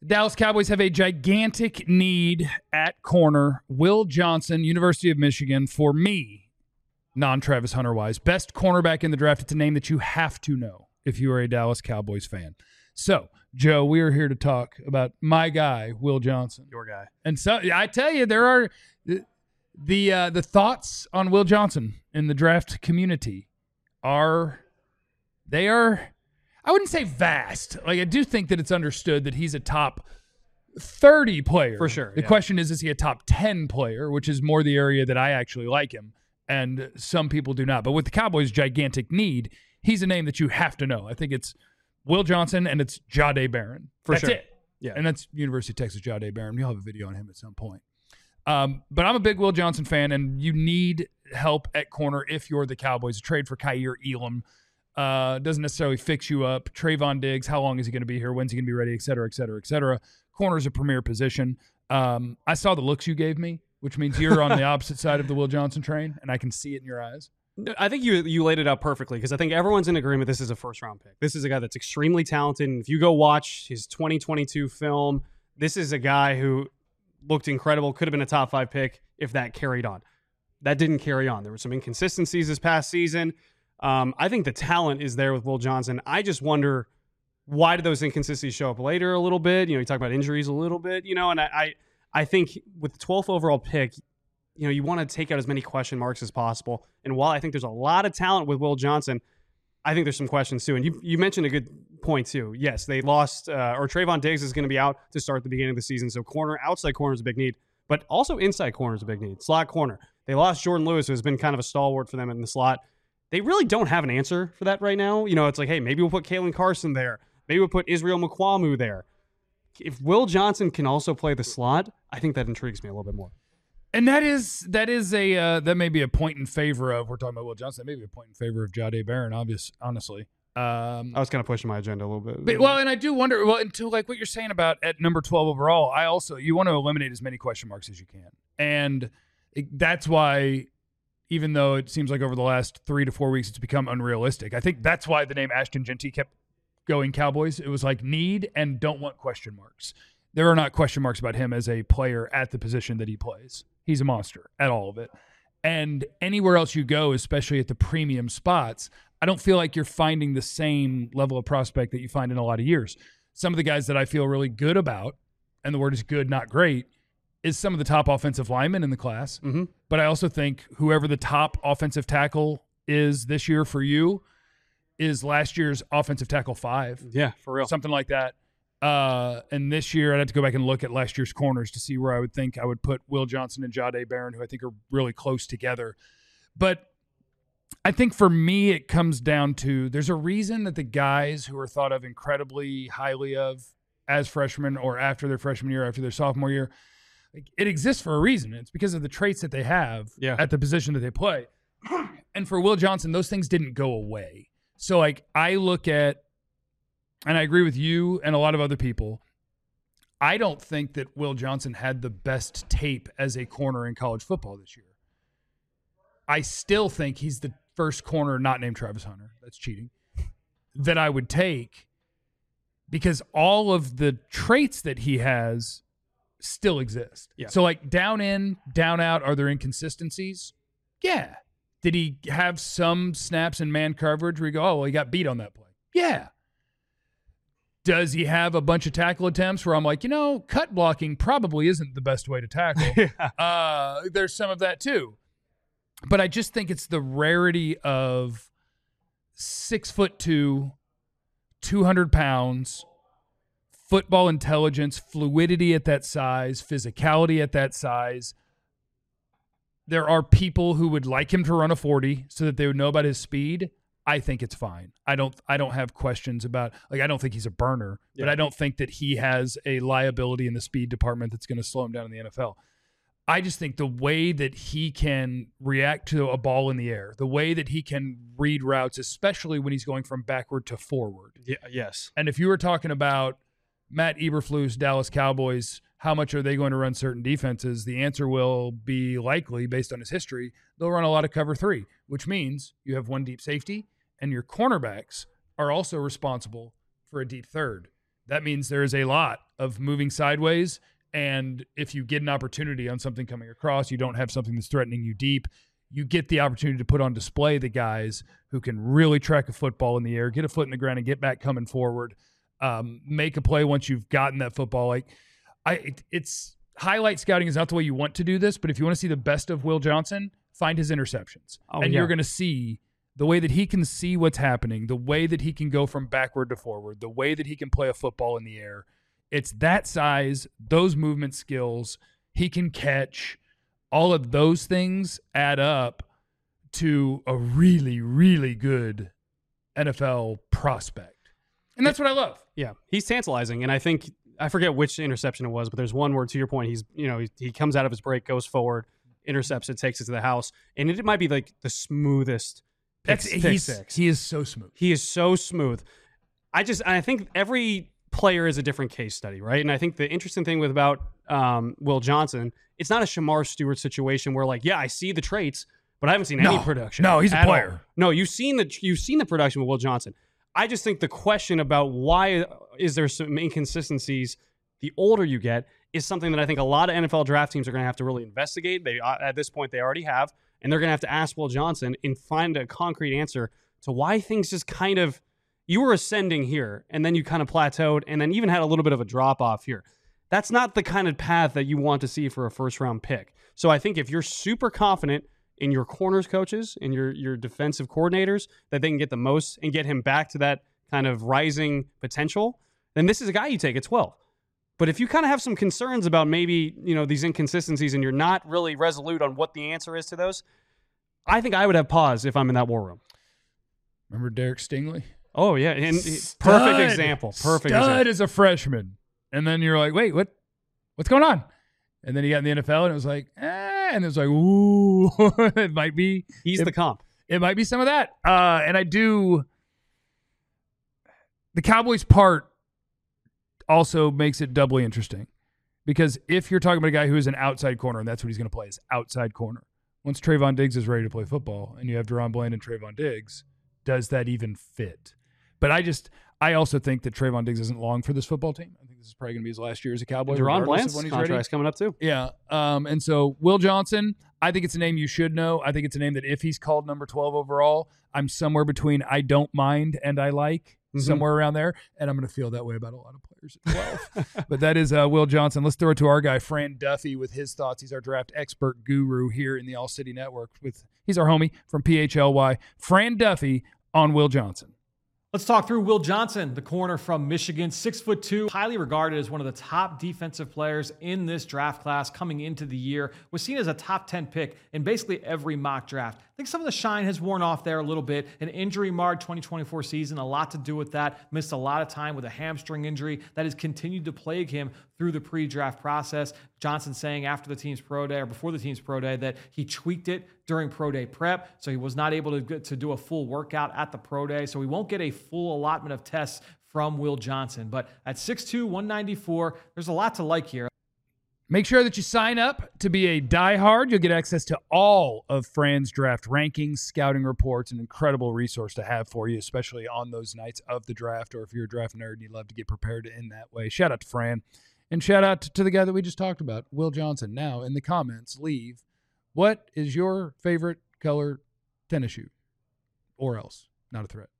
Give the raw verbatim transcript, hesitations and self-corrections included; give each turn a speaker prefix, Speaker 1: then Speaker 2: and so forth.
Speaker 1: Dallas Cowboys have a gigantic need at corner. Will Johnson, University of Michigan, for me, non-Travis Hunter-wise, best cornerback in the draft. It's a name that you have to know if you are a Dallas Cowboys fan. So, Joe, we are here to talk about my guy, Will Johnson.
Speaker 2: Your guy.
Speaker 1: And so I tell you, there are the the, uh, the thoughts on Will Johnson in the draft community are, they are, I wouldn't say vast. Like, I do think that it's understood that he's a top thirty player.
Speaker 2: For sure.
Speaker 1: The
Speaker 2: yeah.
Speaker 1: question is, is he a top ten player, which is more the area that I actually like him, and some people do not. But with the Cowboys' gigantic need, he's a name that you have to know. I think it's Will Johnson, and it's Jahdae Barron.
Speaker 2: For
Speaker 1: that's
Speaker 2: sure.
Speaker 1: it.
Speaker 2: Yeah.
Speaker 1: And that's University of Texas Jahdae Barron. You'll have a video on him at some point. Um, but I'm a big Will Johnson fan, and you need help at corner if you're the Cowboys. A trade for Kaiir Elam uh, doesn't necessarily fix you up. Trayvon Diggs, how long is he going to be here? When's he going to be ready? Et cetera, et cetera, et cetera. Corner's a premier position. Um, I saw the looks you gave me, which means you're on the opposite side of the Will Johnson train, and I can see it in your eyes.
Speaker 2: I think you you laid it out perfectly because I think everyone's in agreement this is a first-round pick. This is a guy that's extremely talented, and if you go watch his twenty twenty-two film, this is a guy who looked incredible, could have been a top five pick if that carried on. That didn't carry on. There were some inconsistencies this past season. Um, I think the talent is there with Will Johnson. I just wonder, why did those inconsistencies show up later a little bit? You know, you talk about injuries a little bit, you know, and I I, I think with the twelfth overall pick, you know, you want to take out as many question marks as possible. And while I think there's a lot of talent with Will Johnson, I think there's some questions too. And you you mentioned a good point too. Yes, they lost, uh, or Trayvon Diggs is going to be out to start the beginning of the season. So corner, outside corner is a big need, but also inside corner is a big need. Slot corner. They lost Jordan Lewis, who has been kind of a stalwart for them in the slot. They really don't have an answer for that right now. You know, it's like, hey, maybe we'll put Kalen Carson there. Maybe we'll put Israel Mukuamu there. If Will Johnson can also play the slot, I think that intrigues me a little bit more.
Speaker 1: And that is that is a uh, that may be a point in favor of, we're talking about Will Johnson, that may be a point in favor of Jahdae Barron, obvious, honestly. Um,
Speaker 2: I was kind of pushing my agenda a little bit.
Speaker 1: But, well, and I do wonder, well, into like what you're saying about at number twelve overall, I also, you want to eliminate as many question marks as you can. And it, that's why, even though it seems like over the last three to four weeks it's become unrealistic, I think that's why the name Ashton Jeanty kept going Cowboys. It was like need and don't want question marks. There are not question marks about him as a player at the position that he plays. He's a monster at all of it. And anywhere else you go, especially at the premium spots, I don't feel like you're finding the same level of prospect that you find in a lot of years. Some of the guys that I feel really good about, and the word is good, not great, is some of the top offensive linemen in the class.
Speaker 2: Mm-hmm.
Speaker 1: But I also think whoever the top offensive tackle is this year for you is last year's offensive tackle five.
Speaker 2: Yeah, for real.
Speaker 1: Something like that. Uh, and this year, I'd have to go back and look at last year's corners to see where I would think I would put Will Johnson and Jahdae Barron, who I think are really close together. But I think for me, it comes down to there's a reason that the guys who are thought of incredibly highly of as freshmen or after their freshman year, after their sophomore year, like, it exists for a reason. It's because of the traits that they have
Speaker 2: yeah.
Speaker 1: at the position that they play. And for Will Johnson, those things didn't go away. So, like, I look at, and I agree with you and a lot of other people, I don't think that Will Johnson had the best tape as a corner in college football this year. I still think he's the first corner not named Travis Hunter. That's cheating. That I would take because all of the traits that he has still exist.
Speaker 2: Yeah.
Speaker 1: So, like, down in, down out, are there inconsistencies? Yeah. Did he have some snaps in man coverage where you go, oh, well, he got beat on that play? Yeah. Does he have a bunch of tackle attempts where I'm like, you know, cut blocking probably isn't the best way to tackle?
Speaker 2: yeah.
Speaker 1: uh, there's some of that too. But I just think it's the rarity of six foot two, two hundred pounds, football intelligence, fluidity at that size, physicality at that size. There are people who would like him to run a forty so that they would know about his speed. I think it's fine. I don't I don't have questions about, like, I don't think he's a burner,
Speaker 2: yeah.
Speaker 1: but I don't think that he has a liability in the speed department that's going to slow him down in the N F L. I just think the way that he can react to a ball in the air, the way that he can read routes, especially when he's going from backward to forward.
Speaker 2: Yeah, yes.
Speaker 1: And if you were talking about Matt Eberflus, Dallas Cowboys, how much are they going to run certain defenses? The answer will be likely, based on his history, they'll run a lot of cover three, which means you have one deep safety, and your cornerbacks are also responsible for a deep third. that means there is a lot of moving sideways. And if you get an opportunity on something coming across, you don't have something that's threatening you deep, you get the opportunity to put on display the guys who can really track a football in the air, get a foot in the ground, and get back coming forward, um, make a play once you've gotten that football. Like, I, it, it's highlight scouting is not the way you want to do this, but if you want to see the best of Will Johnson, find his interceptions.
Speaker 2: Oh,
Speaker 1: and
Speaker 2: yeah.
Speaker 1: you're going to see the way that he can see what's happening, the way that he can go from backward to forward, the way that he can play a football in the air. It's that size, those movement skills, he can catch. All of those things add up to a really, really good N F L prospect. And that's what I love.
Speaker 2: Yeah, he's tantalizing. And I think, I forget which interception it was, but there's one where, to your point, he's, you know, he, he comes out of his break, goes forward, intercepts it, takes it to the house. And it might be like the smoothest pick,
Speaker 1: That's,
Speaker 2: pick
Speaker 1: he's,
Speaker 2: six.
Speaker 1: He is so smooth.
Speaker 2: He is so smooth. I just, I think every player is a different case study, right? And I think the interesting thing with about um, Will Johnson, it's not a Shamar Stewart situation where, like, yeah, I see the traits, but I haven't seen
Speaker 1: No.
Speaker 2: any production.
Speaker 1: No, he's a
Speaker 2: at
Speaker 1: player.
Speaker 2: all. No, you've seen the you've seen the production with Will Johnson. I just think the question about why is there some inconsistencies the older you get is something that I think a lot of N F L draft teams are going to have to really investigate. They at this point they already have, and they're going to have to ask Will Johnson and find a concrete answer to why things just kind of, you were ascending here, and then you kind of plateaued, and then even had a little bit of a drop off here. That's not the kind of path that you want to see for a first round pick. So I think if you're super confident in your corners coaches and your your defensive coordinators that they can get the most and get him back to that kind of rising potential, then this is a guy you take at twelve. But if you kind of have some concerns about maybe, you know, these inconsistencies and you're not really resolute on what the answer is to those, I think I would have pause if I'm in that war room.
Speaker 1: Remember Derek Stingley?
Speaker 2: Oh, yeah. And
Speaker 1: Stud.
Speaker 2: perfect example. Perfect
Speaker 1: Stud
Speaker 2: example.
Speaker 1: as a freshman. And then you're like, wait, what? What's going on? And then he got in the N F L and it was like, eh, and it was like, ooh, it might be.
Speaker 2: He's
Speaker 1: it,
Speaker 2: the comp.
Speaker 1: It might be some of that. Uh, and I do. The Cowboys part also makes it doubly interesting because if you're talking about a guy who is an outside corner, and that's what he's going to play is outside corner. Once Trayvon Diggs is ready to play football and you have Deron Bland and Trayvon Diggs, does that even fit? But I just, I also think that Trayvon Diggs isn't long for this football team. I think this is probably going to be his last year as a Cowboy.
Speaker 2: Deron Bland's
Speaker 1: when he's
Speaker 2: contract's
Speaker 1: ready.
Speaker 2: coming up too.
Speaker 1: Yeah. Um, and so Will Johnson, I think it's a name you should know. I think it's a name that if he's called number twelve overall, I'm somewhere between I don't mind and I like, mm-hmm. somewhere around there. And I'm going to feel that way about a lot of players at twelve. But that is uh, Will Johnson. Let's throw it to our guy, Fran Duffy, with his thoughts. He's our draft expert guru here in the All City Network. With He's our homie from P H L Y. Fran Duffy on Will Johnson.
Speaker 3: Let's talk through Will Johnson, the corner from Michigan, six foot two, highly regarded as one of the top defensive players in this draft class coming into the year, was seen as a top ten pick in basically every mock draft. I think some of the shine has worn off there a little bit. An injury-marred twenty twenty-four season, a lot to do with that. Missed a lot of time with a hamstring injury that has continued to plague him through the pre-draft process. Johnson saying after the team's pro day or before the team's pro day that he tweaked it during pro day prep, so he was not able to get to do a full workout at the pro day, so we won't get a full allotment of tests from Will Johnson. But at six two, one ninety-four, there's a lot to like here.
Speaker 1: Make sure that you sign up to be a diehard. You'll get access to all of Fran's draft rankings, scouting reports, an incredible resource to have for you, especially on those nights of the draft, or if you're a draft nerd and you love to get prepared in that way. Shout out to Fran. And shout out to the guy that we just talked about, Will Johnson. Now, in the comments, leave, what is your favorite color tennis shoe? Or else, not a threat.